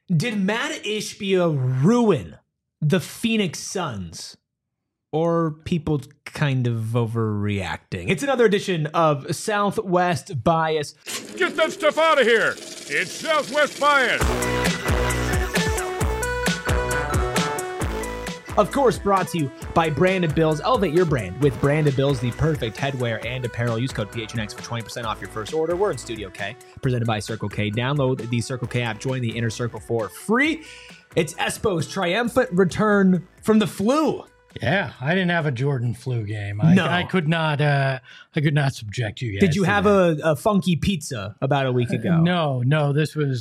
Did Matt Ishbia ruin the Phoenix Suns? Or people kind of overreacting? It's another edition of Southwest Bias. Get that stuff out of here. It's Southwest Bias. Of course, brought to you by Brandon Bills. Elevate your brand with Brandon Bills, the perfect headwear and apparel. Use code PHNX for 20% off your first order. We're in Studio K, presented by Circle K. Download the Circle K app. Join the Inner Circle for free. It's Espo's triumphant return from the flu. Yeah, I didn't have a Jordan flu game. No. I could not subject you guys. Did you to have that. a funky pizza about a week ago? No. This was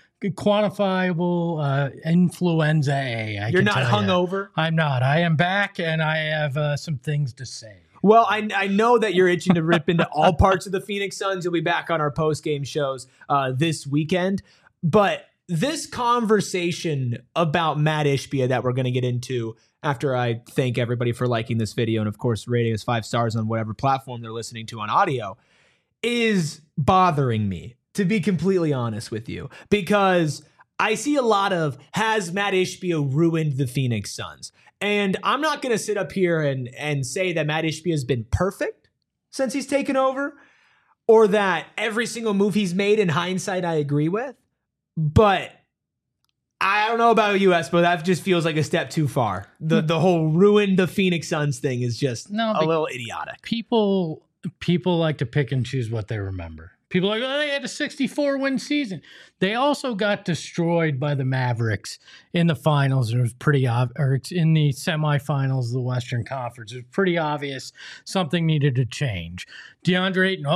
quantifiable influenza A. You're not hungover? I'm not. I am back, and I have some things to say. Well, I know that you're itching to rip into all parts of the Phoenix Suns. You'll be back on our post-game shows this weekend. But this conversation about Matt Ishbia that we're going to get into after I thank everybody for liking this video and, of course, rating us 5 stars on whatever platform they're listening to on audio is bothering me, to be completely honest with you, because I see a lot of, has Matt Ishbia ruined the Phoenix Suns? And I'm not going to sit up here and say that Matt Ishbia has been perfect since he's taken over, or that every single move he's made in hindsight I agree with. But I don't know about you, but that just feels like a step too far. The whole ruin the Phoenix Suns thing is just a little idiotic. People like to pick and choose what they remember. People are like, oh, they had a 64-win season. They also got destroyed by the Mavericks in the finals. It was pretty or it's in the semifinals of the Western Conference. It was pretty obvious something needed to change. DeAndre Ayton,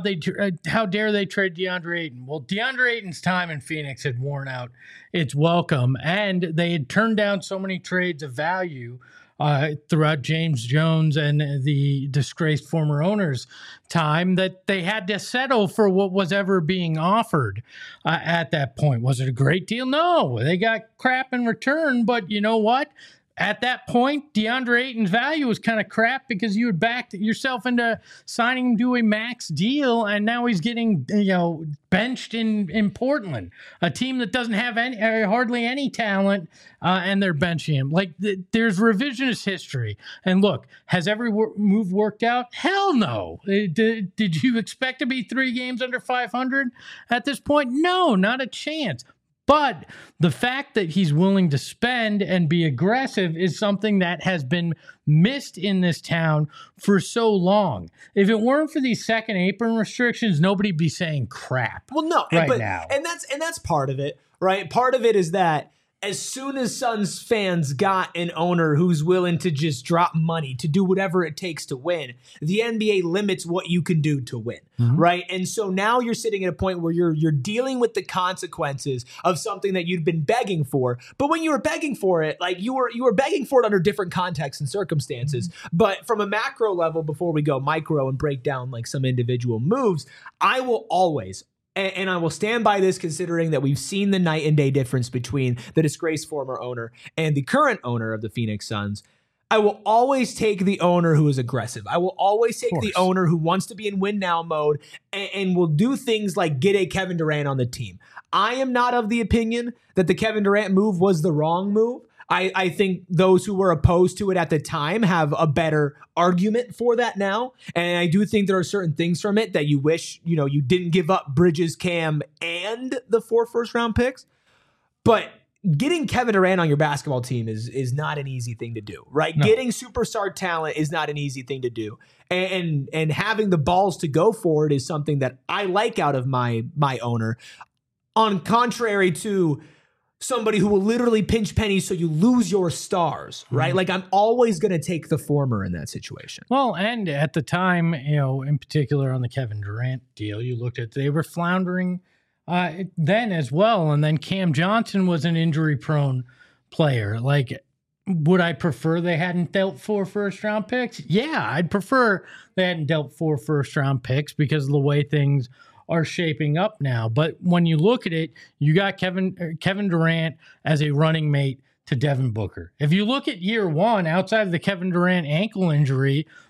how dare they trade DeAndre Ayton? Well, DeAndre Ayton's time in Phoenix had worn out its welcome, and they had turned down so many trades of value throughout James Jones and the disgraced former owner's time that they had to settle for what was ever being offered at that point. Was it a great deal? No, they got crap in return, but you know what? At that point, DeAndre Ayton's value was kind of crap because you had backed yourself into signing him to a max deal, and now he's getting benched in Portland, a team that doesn't have hardly any talent, and they're benching him. Like there's revisionist history. And look, has every move worked out? Hell no. Did you expect to be 3 games under 500 at this point? No, not a chance. But the fact that he's willing to spend and be aggressive is something that has been missed in this town for so long. If it weren't for these second apron restrictions, nobody'd be saying crap. Well, no, now. And that's part of it, right? Part of it is that as soon as Suns fans got an owner who's willing to just drop money to do whatever it takes to win, the NBA limits what you can do to win, right? And so now you're sitting at a point where you're dealing with the consequences of something that you'd been begging for. But when you were begging for it, like you were begging for it under different contexts and circumstances. But from a macro level, before we go micro and break down like some individual moves, I will always, and I will stand by this considering that we've seen the night and day difference between the disgraced former owner and the current owner of the Phoenix Suns. I will always take the owner who is aggressive. I will always take the owner who wants to be in win now mode and will do things like get a Kevin Durant on the team. I am not of the opinion that the Kevin Durant move was the wrong move. I think those who were opposed to it at the time have a better argument for that now. And I do think there are certain things from it that you wish, you didn't give up Bridges, Cam, and the 4 first-round picks. But getting Kevin Durant on your basketball team is not an easy thing to do, right? No. Getting superstar talent is not an easy thing to do. And having the balls to go for it is something that I like out of my owner. On contrary to somebody who will literally pinch pennies so you lose your stars, right? Like I'm always going to take the former in that situation. Well, and at the time, in particular on the Kevin Durant deal, you looked at, they were floundering then as well. And then Cam Johnson was an injury-prone player. Like, would I prefer they hadn't dealt 4 first-round picks? Yeah, I'd prefer they hadn't dealt 4 first-round picks because of the way things are shaping up now. But when you look at it, you got Kevin Durant as a running mate to Devin Booker. If you look at year one, outside of the Kevin Durant ankle injury,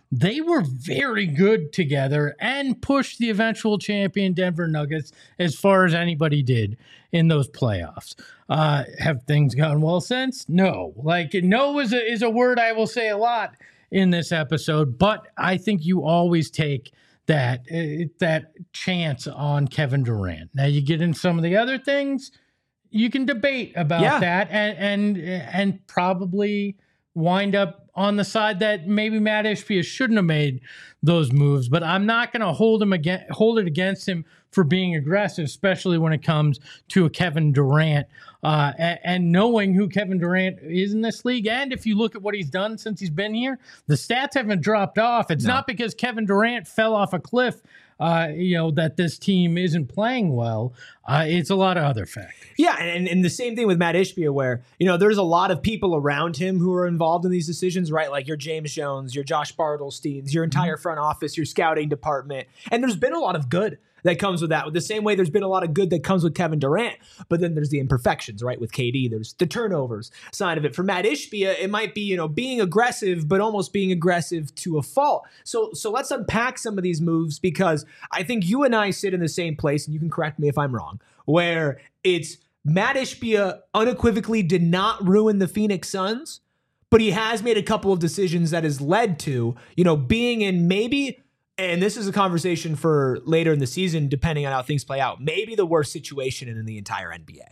they were very good together and pushed the eventual champion Denver Nuggets as far as anybody did in those playoffs. Have things gone well since? No. Like, no is a word I will say a lot in this episode, but I think you always take that chance on Kevin Durant. Now you get in some of the other things, you can debate about that and probably wind up on the side that maybe Matt Ishbia shouldn't have made those moves, but I'm not going to hold it against him for being aggressive, especially when it comes to a Kevin Durant and knowing who Kevin Durant is in this league. And if you look at what he's done since he's been here, the stats haven't dropped off. It's not because Kevin Durant fell off a cliff, that this team isn't playing well. It's a lot of other factors. Yeah, and the same thing with Matt Ishbia, where, there's a lot of people around him who are involved in these decisions, right? Like your James Jones, your Josh Bartelsteins, your entire front office, your scouting department. And there's been a lot of good that comes with that. The same way there's been a lot of good that comes with Kevin Durant, but then there's the imperfections, right? With KD, there's the turnovers side of it. For Matt Ishbia, it might be, being aggressive, but almost being aggressive to a fault. So let's unpack some of these moves, because I think you and I sit in the same place, and you can correct me if I'm wrong, where it's Matt Ishbia unequivocally did not ruin the Phoenix Suns, but he has made a couple of decisions that has led to, being in maybe, and this is a conversation for later in the season, depending on how things play out, maybe the worst situation in the entire NBA.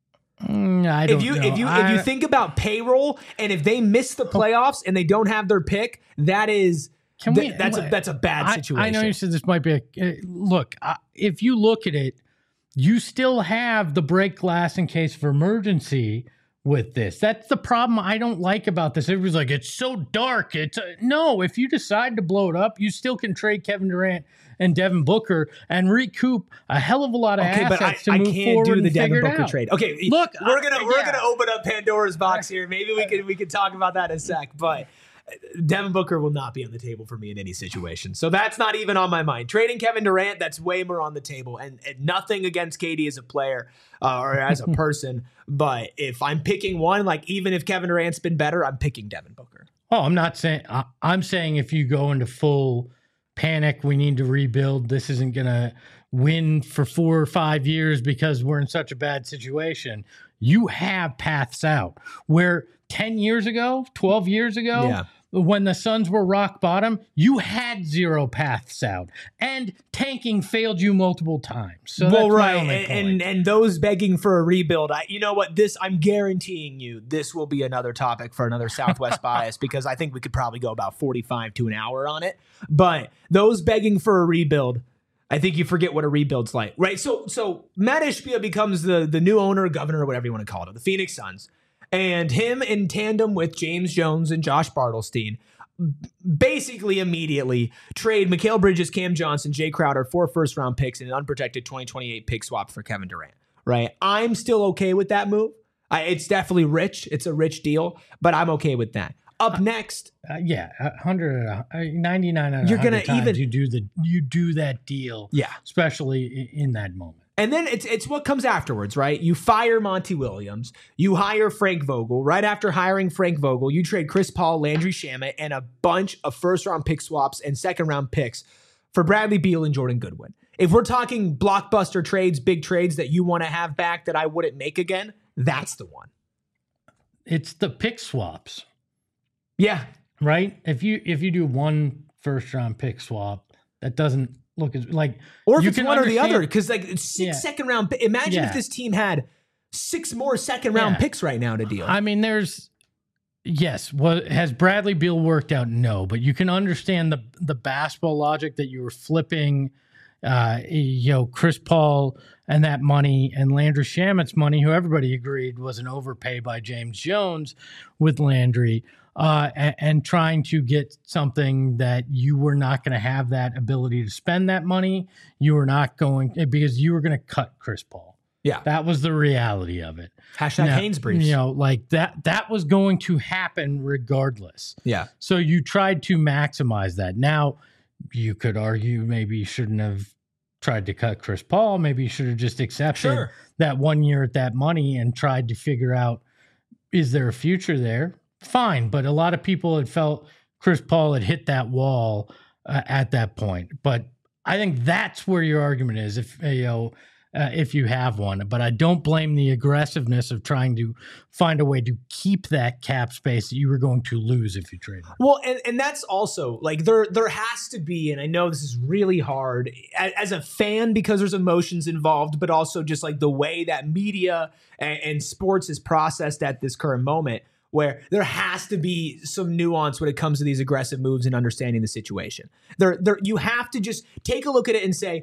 I don't know. If you think about payroll, and if they miss the playoffs and they don't have their pick, that's a bad situation. I know you said this might be look. If you look at it, you still have the break glass in case of emergency with this. That's the problem I don't like about this. Everybody's like, it's so dark. No, if you decide to blow it up, you still can trade Kevin Durant and Devin Booker and recoup a hell of a lot of assets to move forward. I can't do the Devin Booker trade. Okay, look, we're gonna open up Pandora's box here. Maybe we can talk about that in a sec, but Devin Booker will not be on the table for me in any situation. So that's not even on my mind. Trading Kevin Durant, that's way more on the table. And nothing against KD as a player or as a person. But if I'm picking one, like even if Kevin Durant's been better, I'm picking Devin Booker. Oh, I'm not saying – I'm saying if you go into full panic, we need to rebuild, this isn't going to win for 4 or 5 years because we're in such a bad situation, you have paths out. Where 10 years ago, 12 years ago, when the Suns were rock bottom, you had 0 paths out, and tanking failed you multiple times. So that's my only point. And those begging for a rebuild, I'm guaranteeing you this will be another topic for another Southwest Bias, because I think we could probably go about 45 to an hour on it. But those begging for a rebuild, I think you forget what a rebuild's like, right? So Matt Ishbia becomes the new owner, governor, whatever you want to call it, of the Phoenix Suns. And him in tandem with James Jones and Josh Bartelstein basically immediately trade Mikal Bridges, Cam Johnson, Jay Crowder, 4 first-round picks, and an unprotected 2028 pick swap for Kevin Durant, right? I'm still okay with that move. It's definitely rich. It's a rich deal, but I'm okay with that. Up next, 199 out of 100 times you do that deal, especially in that moment. And then it's what comes afterwards, right? You fire Monty Williams. You hire Frank Vogel. Right after hiring Frank Vogel, you trade Chris Paul, Landry Shamet, and a bunch of first-round pick swaps and second-round picks for Bradley Beal and Jordan Goodwin. If we're talking blockbuster trades, big trades that you want to have back that I wouldn't make again, that's the one. It's the pick swaps. Yeah. Right? If you do 1 first-round pick swap, that doesn't look like, or if it's one or the other, because like 6 second round. Imagine if this team had 6 more second round picks right now to deal. I mean, has Bradley Beal worked out? No, but you can understand the basketball logic that you were flipping, Chris Paul and that money and Landry Shamet's money, who everybody agreed was an overpay by James Jones with Landry. And trying to get something that you were not going to have that ability to spend that money. You were not going, because you were going to cut Chris Paul. Yeah. That was the reality of it. Haynes briefs. Like that was going to happen regardless. Yeah. So you tried to maximize that. Now, you could argue maybe you shouldn't have tried to cut Chris Paul. Maybe you should have just accepted that 1 year at that money and tried to figure out, is there a future there? Fine, but a lot of people had felt Chris Paul had hit that wall at that point. But I think that's where your argument is, if you have one. But I don't blame the aggressiveness of trying to find a way to keep that cap space that you were going to lose if you traded. Well, and that's also like there has to be, and I know this is really hard as a fan because there's emotions involved, but also just like the way that media and sports is processed at this current moment, where there has to be some nuance when it comes to these aggressive moves and understanding the situation. You have to just take a look at it and say,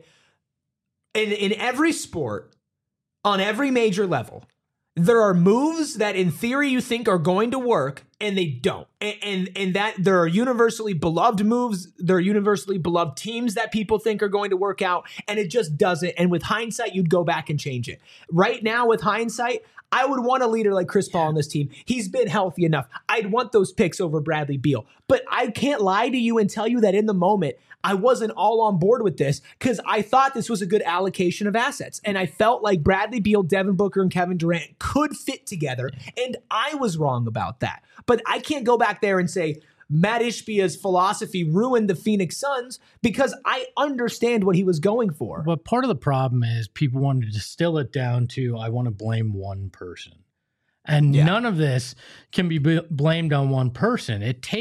in every sport, on every major level, there are moves that in theory you think are going to work and they don't. And that there are universally beloved moves, there are universally beloved teams that people think are going to work out, and it just doesn't. And with hindsight, you'd go back and change it. Right now, with hindsight, I would want a leader like Chris Paul on this team. He's been healthy enough. I'd want those picks over Bradley Beal. But I can't lie to you and tell you that in the moment, I wasn't all on board with this because I thought this was a good allocation of assets. And I felt like Bradley Beal, Devin Booker, and Kevin Durant could fit together. And I was wrong about that. But I can't go back there and say Matt Ishbia's philosophy ruined the Phoenix Suns because I understand what he was going for. But part of the problem is people wanted to distill it down to, I want to blame one person. And none of this can be blamed on one person.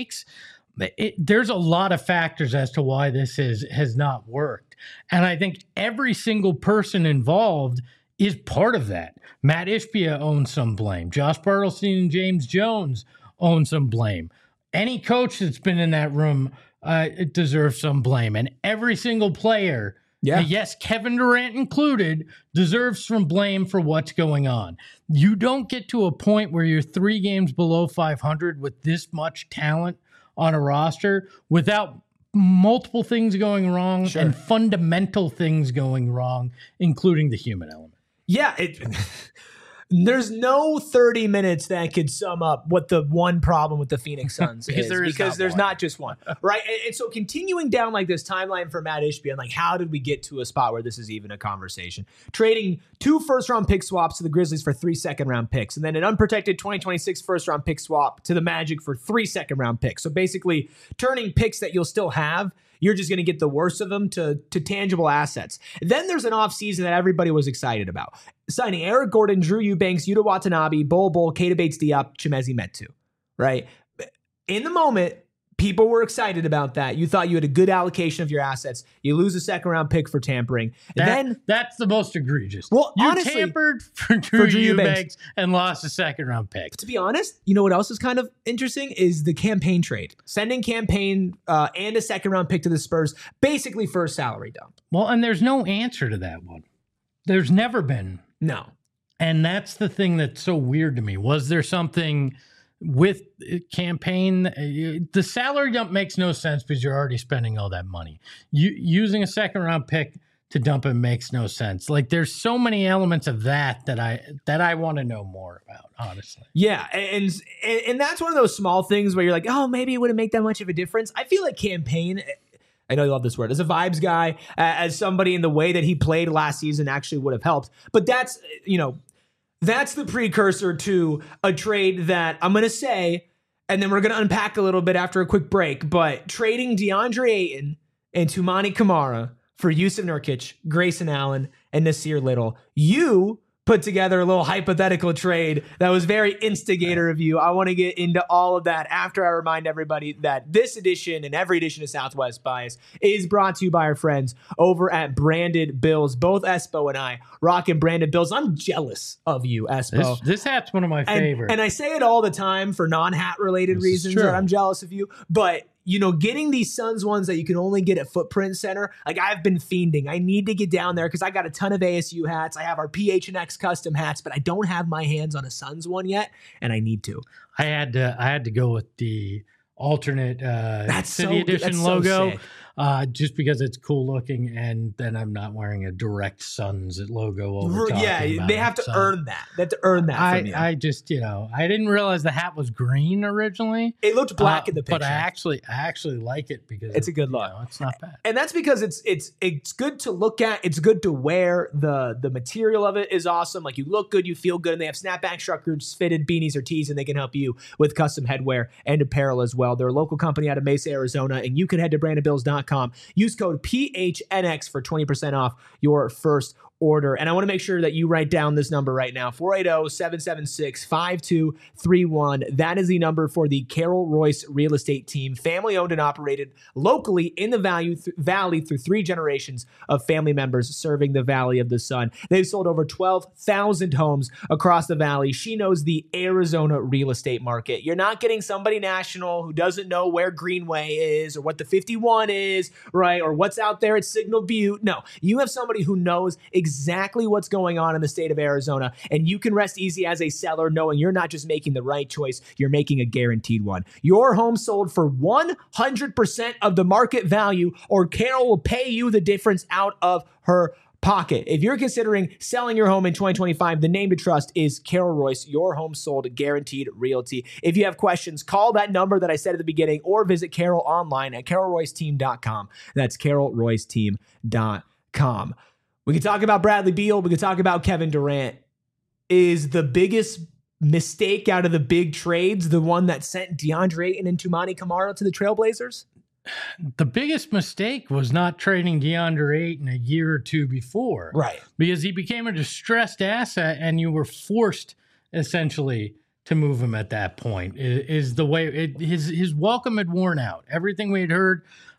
There's a lot of factors as to why this has not worked. And I think every single person involved is part of that. Matt Ishbia owns some blame. Josh Bartelstein and James Jones own some blame. Any coach that's been in that room deserves some blame. And every single player, yes, Kevin Durant included, deserves some blame for what's going on. You don't get to a point where you're 3 games below 500 with this much talent on a roster without multiple things going wrong and fundamental things going wrong, including the human element. Yeah, there's no 30 minutes that could sum up what the one problem with the Phoenix Suns is, because there's not just one, right? And so continuing down like this timeline for Matt Ishbia, and like how did we get to a spot where this is even a conversation? Trading 2 first-round pick swaps to the Grizzlies for 3 second-round picks, and then an unprotected 2026 first-round pick swap to the Magic for 3 second-round picks. So basically turning picks that you'll still have, you're just going to get the worst of them to tangible assets. Then there's an offseason that everybody was excited about. Signing Eric Gordon, Drew Eubanks, Yuta Watanabe, Bol Bol, Keita Bates-Diop, Chimezie Metu, right? In the moment, people were excited about that. You thought you had a good allocation of your assets. You lose a second-round pick for tampering. That's the most egregious. Well, you honestly, tampered for Drew Eubanks and lost a second-round pick. To be honest, you know what else is kind of interesting is the campaign trade. Sending campaign and a second-round pick to the Spurs, basically for a salary dump. Well, and there's no answer to that one. There's never been. No. And that's the thing that's so weird to me. Was there something with campaign? The salary dump makes no sense because you're already spending all that money. Using a second round pick to dump it makes no sense. Like there's so many elements of that I want to know more about, honestly. Yeah, and that's one of those small things where you're like, oh, maybe it wouldn't make that much of a difference. I feel like campaign, I know you love this word, as a vibes guy, as somebody in the way that he played last season actually would have helped. But that's, that's the precursor to a trade that I'm going to say, and then we're going to unpack a little bit after a quick break, but trading DeAndre Ayton and Toumani Camara for Yusuf Nurkic, Grayson Allen, and Nasir Little. You put together a little hypothetical trade that was very instigator of you. I want to get into all of that after I remind everybody that this edition and every edition of Southwest Bias is brought to you by our friends over at Branded Bills. Both Espo and I rocking Branded Bills. I'm jealous of you, Espo. This hat's one of my favorites. And I say it all the time for non-hat related reasons that I'm jealous of you. But getting these Suns ones that you can only get at Footprint Center, like I've been fiending. I need to get down there because I got a ton of ASU hats. I have our PHNX custom hats, but I don't have my hands on a Suns one yet, and I need to. I had to go with the alternate City Edition logo. just because it's cool looking, and then I'm not wearing a direct Suns logo over top. Yeah, they have to earn that. They have to earn that from you. I just, I didn't realize the hat was green originally. It looked black in the picture. But I actually like it because it's a good look. It's not bad. And that's because it's good to look at. It's good to wear. The material of it is awesome. Like, you look good, you feel good, and they have snapback truckers, fitted beanies or tees, and they can help you with custom headwear and apparel as well. They're a local company out of Mesa, Arizona, and you can head to brandonbills.com. Use code PHNX for 20% off your first order. And I want to make sure that you write down this number right now, 480-776-5231. That is the number for the Carol Royce Real Estate Team, family owned and operated locally in the Valley through 3 generations of family members serving the Valley of the Sun. They've sold over 12,000 homes across the Valley. She knows the Arizona real estate market. You're not getting somebody national who doesn't know where Greenway is or what the 51 is, right? Or what's out there at Signal Butte. No, you have somebody who knows exactly what's going on in the state of Arizona, and you can rest easy as a seller knowing you're not just making the right choice, you're making a guaranteed one. Your home sold for 100% of the market value, or Carol will pay you the difference out of her pocket. If you're considering selling your home in 2025, the name to trust is Carol Royce, your home sold guaranteed realty. If you have questions, call that number that I said at the beginning, or visit Carol online at carolroyceteam.com. That's carolroyceteam.com. We can talk about Bradley Beal. We can talk about Kevin Durant. Is the biggest mistake out of the big trades the one that sent DeAndre Ayton and Toumani Camara to the Trailblazers? The biggest mistake was not trading DeAndre Ayton a year or two before. Right. Because he became a distressed asset and you were forced essentially to move him at that point. Is the way his welcome had worn out. Everything we had heard,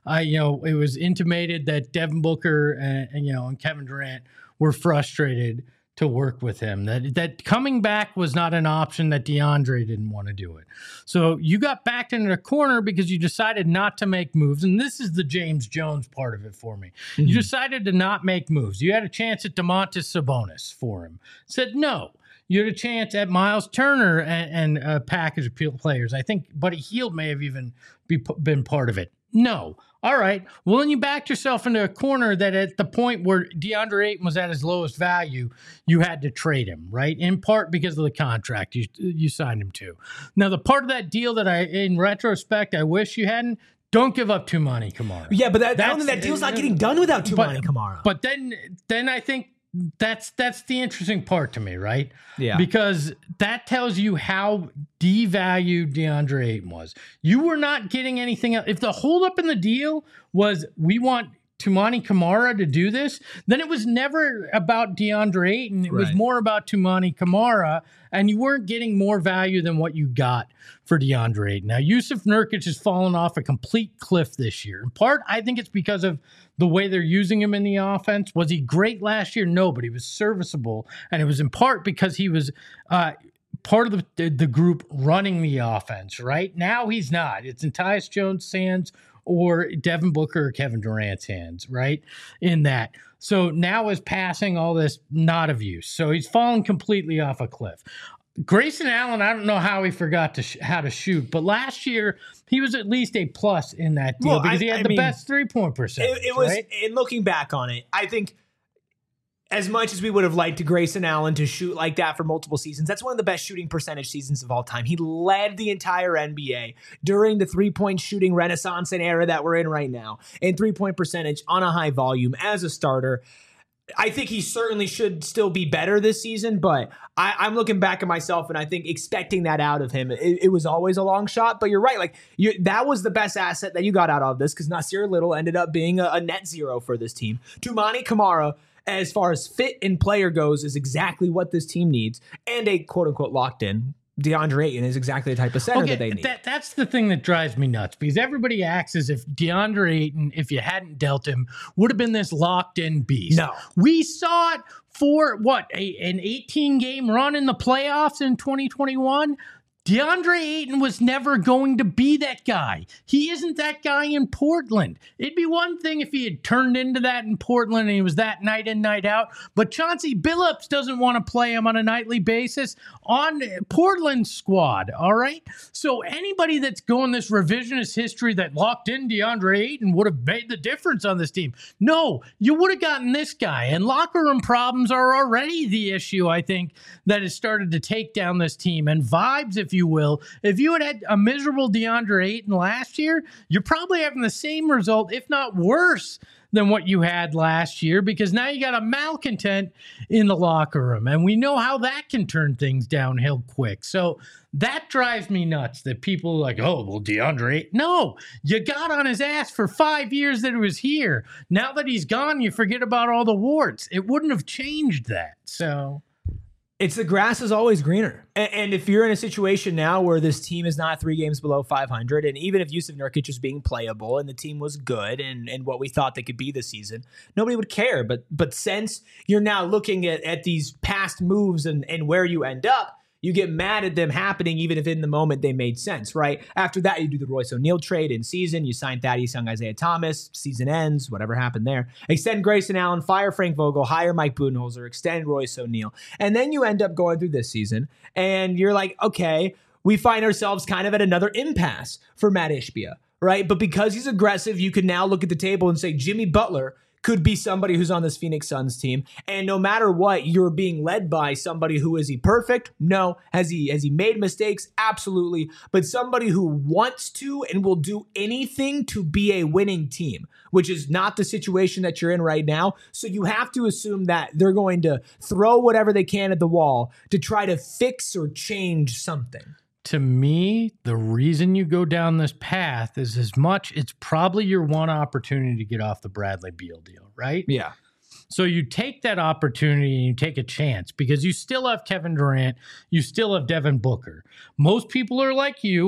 it was intimated that Devin Booker and Kevin Durant were frustrated to work with him, that coming back was not an option, that DeAndre didn't want to do it. So you got backed into a corner because you decided not to make moves. And this is the James Jones part of it for me. Mm-hmm. You decided to not make moves. You had a chance at Domantas Sabonis for him. Said no. You had a chance at Miles Turner and a package of players. I think Buddy Hield may have even been part of it. No. All right. Well, then you backed yourself into a corner that at the point where DeAndre Ayton was at his lowest value, you had to trade him, right? In part because of the contract you signed him to. Now, the part of that deal that in retrospect, I wish you hadn't, don't give up Toumani Camara. Yeah, but that deal's not getting done without Toumani Camara. But then I think that's the interesting part to me, right? Yeah. Because that tells you how devalued DeAndre Ayton was. You were not getting anything else. If the holdup in the deal was we want Toumani Camara to do this, then it was never about DeAndre Ayton. It was more about Toumani Camara, and you weren't getting more value than what you got for DeAndre Ayton. Now, Yusuf Nurkic has fallen off a complete cliff this year. In part, I think it's because of the way they're using him in the offense. Was he great last year? No, but he was serviceable, and it was in part because he was part of the group running the offense, right? Now he's not. It's in Tyus Jones' hands or Devin Booker or Kevin Durant's hands, right? In that. So now is passing all this not of use. So he's fallen completely off a cliff. Grayson Allen, I don't know how he forgot how to shoot, but last year he was at least a plus in that deal because he had the best 3-point percentage. It was, right? In looking back on it, I think as much as we would have liked Grayson Allen to shoot like that for multiple seasons, that's one of the best shooting percentage seasons of all time. He led the entire NBA during the 3-point shooting renaissance and era that we're in right now, in 3-point percentage on a high volume as a starter. I think he certainly should still be better this season, but I'm looking back at myself and I think expecting that out of him, it was always a long shot. But you're right, that was the best asset that you got out of this, because Nasir Little ended up being a net zero for this team. Toumani Camara, as far as fit and player goes, is exactly what this team needs, and a quote-unquote locked-in DeAndre Ayton is exactly the type of center that they need. That's the thing that drives me nuts, because everybody acts as if DeAndre Ayton, if you hadn't dealt him, would have been this locked-in beast. No. We saw it for, an 18-game run in the playoffs in 2021? DeAndre Ayton was never going to be that guy. He isn't that guy in Portland. It'd be one thing if he had turned into that in Portland and he was that night in, night out, but Chauncey Billups doesn't want to play him on a nightly basis on Portland's squad, all right? So anybody that's going this revisionist history that locked in DeAndre Ayton would have made the difference on this team. No, you would have gotten this guy, and locker room problems are already the issue, I think, that has started to take down this team, and vibes, if you will. If you had a miserable DeAndre Ayton last year, you're probably having the same result, if not worse, than what you had last year, because now you got a malcontent in the locker room, and we know how that can turn things downhill quick. So that drives me nuts that people are like, oh, well, DeAndre, no, you got on his ass for 5 years that he was here. Now that he's gone, you forget about all the warts. It wouldn't have changed that. So it's the grass is always greener. And if you're in a situation now where this team is not 3 games below 500, and even if Yusuf Nurkic is being playable and the team was good and what we thought they could be this season, nobody would care. But since you're now looking at these past moves and where you end up, you get mad at them happening even if in the moment they made sense, right? After that, you do the Royce O'Neal trade in season. You sign Thaddeus Young, Isaiah Thomas. Season ends, whatever happened there. Extend Grayson Allen, fire Frank Vogel, hire Mike Budenholzer, extend Royce O'Neal. And then you end up going through this season, and you're like, okay, we find ourselves kind of at another impasse for Matt Ishbia, right? But because he's aggressive, you can now look at the table and say Jimmy Butler could be somebody who's on this Phoenix Suns team. And no matter what, you're being led by somebody who, is he perfect? No. Has he made mistakes? Absolutely. But somebody who wants to and will do anything to be a winning team, which is not the situation that you're in right now. So you have to assume that they're going to throw whatever they can at the wall to try to fix or change something. To me, the reason you go down this path is it's probably your one opportunity to get off the Bradley Beal deal, right? Yeah. So you take that opportunity and you take a chance because you still have Kevin Durant, you still have Devin Booker. Most people are like you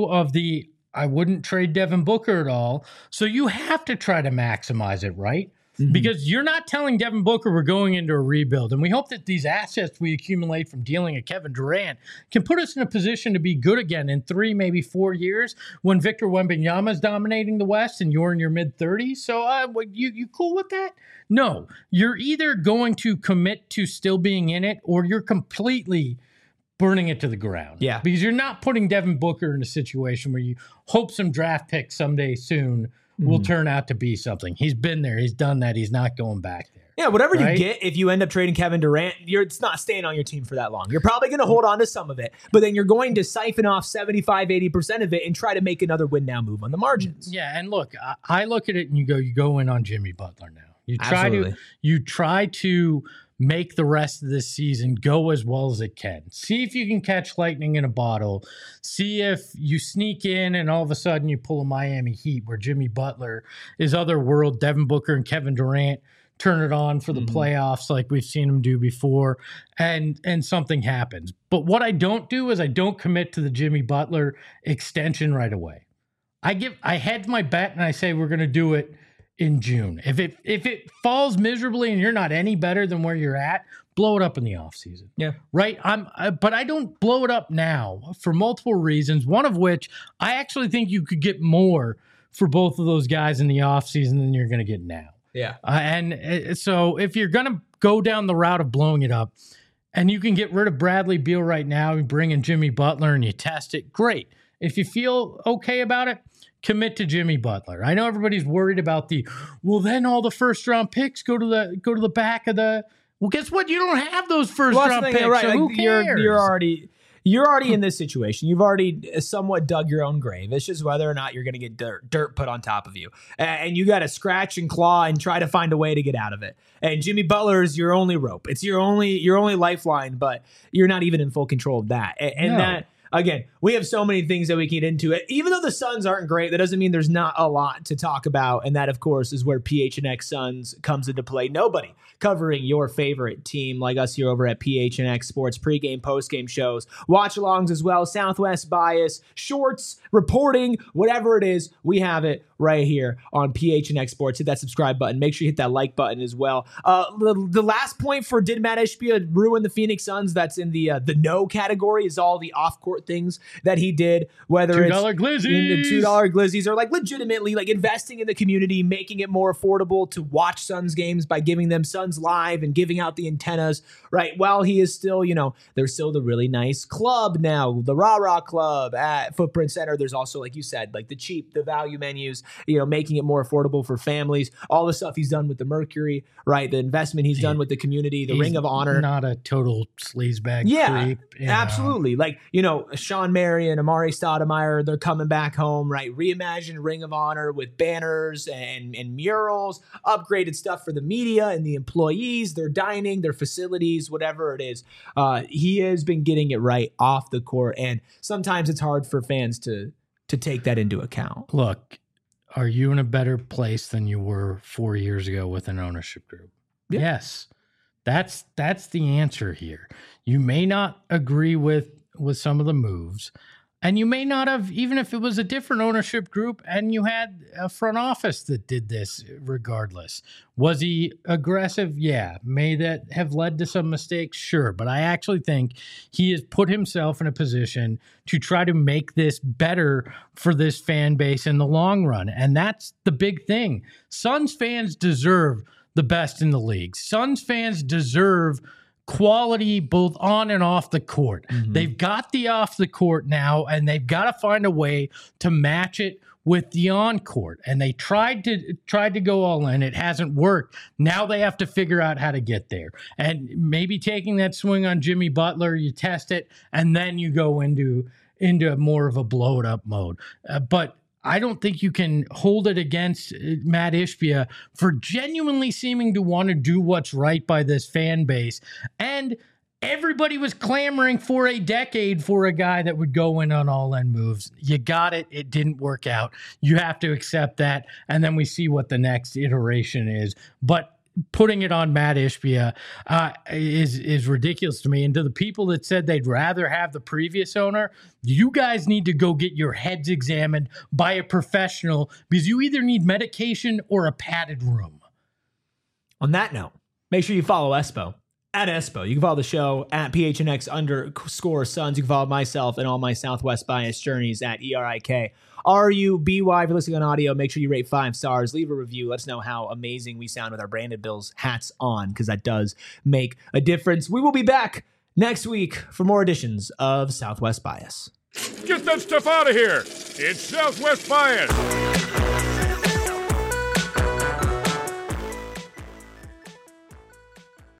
I wouldn't trade Devin Booker at all. So you have to try to maximize it, right? Mm-hmm. Because you're not telling Devin Booker we're going into a rebuild. And we hope that these assets we accumulate from dealing a Kevin Durant can put us in a position to be good again in 3, maybe 4 years when Victor Wembanyama is dominating the West and you're in your mid-30s. So you cool with that? No. You're either going to commit to still being in it or you're completely burning it to the ground. Yeah. Because you're not putting Devin Booker in a situation where you hope some draft pick someday soon will turn out to be something. He's been there. He's done that. He's not going back there. Yeah, whatever you get, if you end up trading Kevin Durant, it's not staying on your team for that long. You're probably going to hold on to some of it, but then you're going to siphon off 75, 80% of it and try to make another win now move on the margins. Yeah, and look, I look at it and you go in on Jimmy Butler now. You try to make the rest of this season go as well as it can. See if you can catch lightning in a bottle. See if you sneak in and all of a sudden you pull a Miami Heat where Jimmy Butler is otherworld. Devin Booker and Kevin Durant turn it on for the playoffs like we've seen them do before, and something happens. But what I don't do is I don't commit to the Jimmy Butler extension right away. I hedge my bet and I say we're going to do it in June. If it falls miserably and you're not any better than where you're at, blow it up in the offseason. Yeah. Right? But I don't blow it up now for multiple reasons, one of which I actually think you could get more for both of those guys in the offseason than you're going to get now. Yeah. And so if you're going to go down the route of blowing it up and you can get rid of Bradley Beal right now and bring in Jimmy Butler and you test it, great. If you feel okay about it, commit to Jimmy Butler. I know everybody's worried about then all the first round picks go to the back of the. Well, guess what? You don't have those first round picks. Right. So who cares? You're already in this situation. You've already somewhat dug your own grave. It's just whether or not you're going to get dirt put on top of you, and you got to scratch and claw and try to find a way to get out of it. And Jimmy Butler is your only rope. It's your only lifeline, but you're not even in full control of that. And that. Again, we have so many things that we can get into it. Even though the Suns aren't great, that doesn't mean there's not a lot to talk about. And that, of course, is where PHNX Suns comes into play. Nobody covering your favorite team like us here over at PHNX Sports, pregame, postgame shows, watch-alongs as well, Southwest bias, shorts, reporting, whatever it is, we have it right here on PHNX Sports. Hit that subscribe button. Make sure you hit that like button as well. The last point for did Matt Ishbia ruin the Phoenix Suns? That's in the no category is all the off-court support things that he did, whether $2 it's glizzies. the $2 glizzies or like legitimately like investing in the community, making it more affordable to watch Suns games by giving them Suns Live and giving out the antennas, right? While he is still, there's still the really nice club now, the Rah Rah Club at Footprint Center. There's also, like you said, like the value menus, making it more affordable for families, all the stuff he's done with the Mercury, right? The investment he's done with the community, the Ring of Honor. Not a total sleazebag creep. Absolutely. Like, Sean Marion, Amari Stoudemire, they're coming back home, right? Reimagined Ring of Honor with banners and murals, upgraded stuff for the media and the employees, their dining, their facilities, whatever it is. He has been getting it right off the court. And sometimes it's hard for fans to take that into account. Look, are you in a better place than you were 4 years ago with an ownership group? Yeah. Yes. That's the answer here. You may not agree with some of the moves, and you may not have, even if it was a different ownership group and you had a front office that did this regardless. Was he aggressive? Yeah. May that have led to some mistakes? Sure. But I actually think he has put himself in a position to try to make this better for this fan base in the long run. And that's the big thing. Suns fans deserve the best in the league. Suns fans deserve quality both on and off the court. Mm-hmm. They've got the off the court now, and they've got to find a way to match it with the on court. And they tried to go all in. It hasn't worked. Now they have to figure out how to get there. And maybe taking that swing on Jimmy Butler, you test it, and then you go into more of a blow it up mode. But I don't think you can hold it against Matt Ishbia for genuinely seeming to want to do what's right by this fan base. And everybody was clamoring for a decade for a guy that would go in on all-in moves. You got it. It didn't work out. You have to accept that. And then we see what the next iteration is. But putting it on Matt Ishbia is ridiculous to me. And to the people that said they'd rather have the previous owner, you guys need to go get your heads examined by a professional, because you either need medication or a padded room. On that note, make sure you follow Espo. At Espo. You can follow the show at PHNX_Suns. You can follow myself and all my Southwest Bias journeys at ERIKRUBY. If you're listening on audio, make sure you rate 5 stars, leave a review. Let us know how amazing we sound with our Branded Bills hats on, because that does make a difference. We will be back next week for more editions of Southwest Bias. Get that stuff out of here. It's Southwest Bias.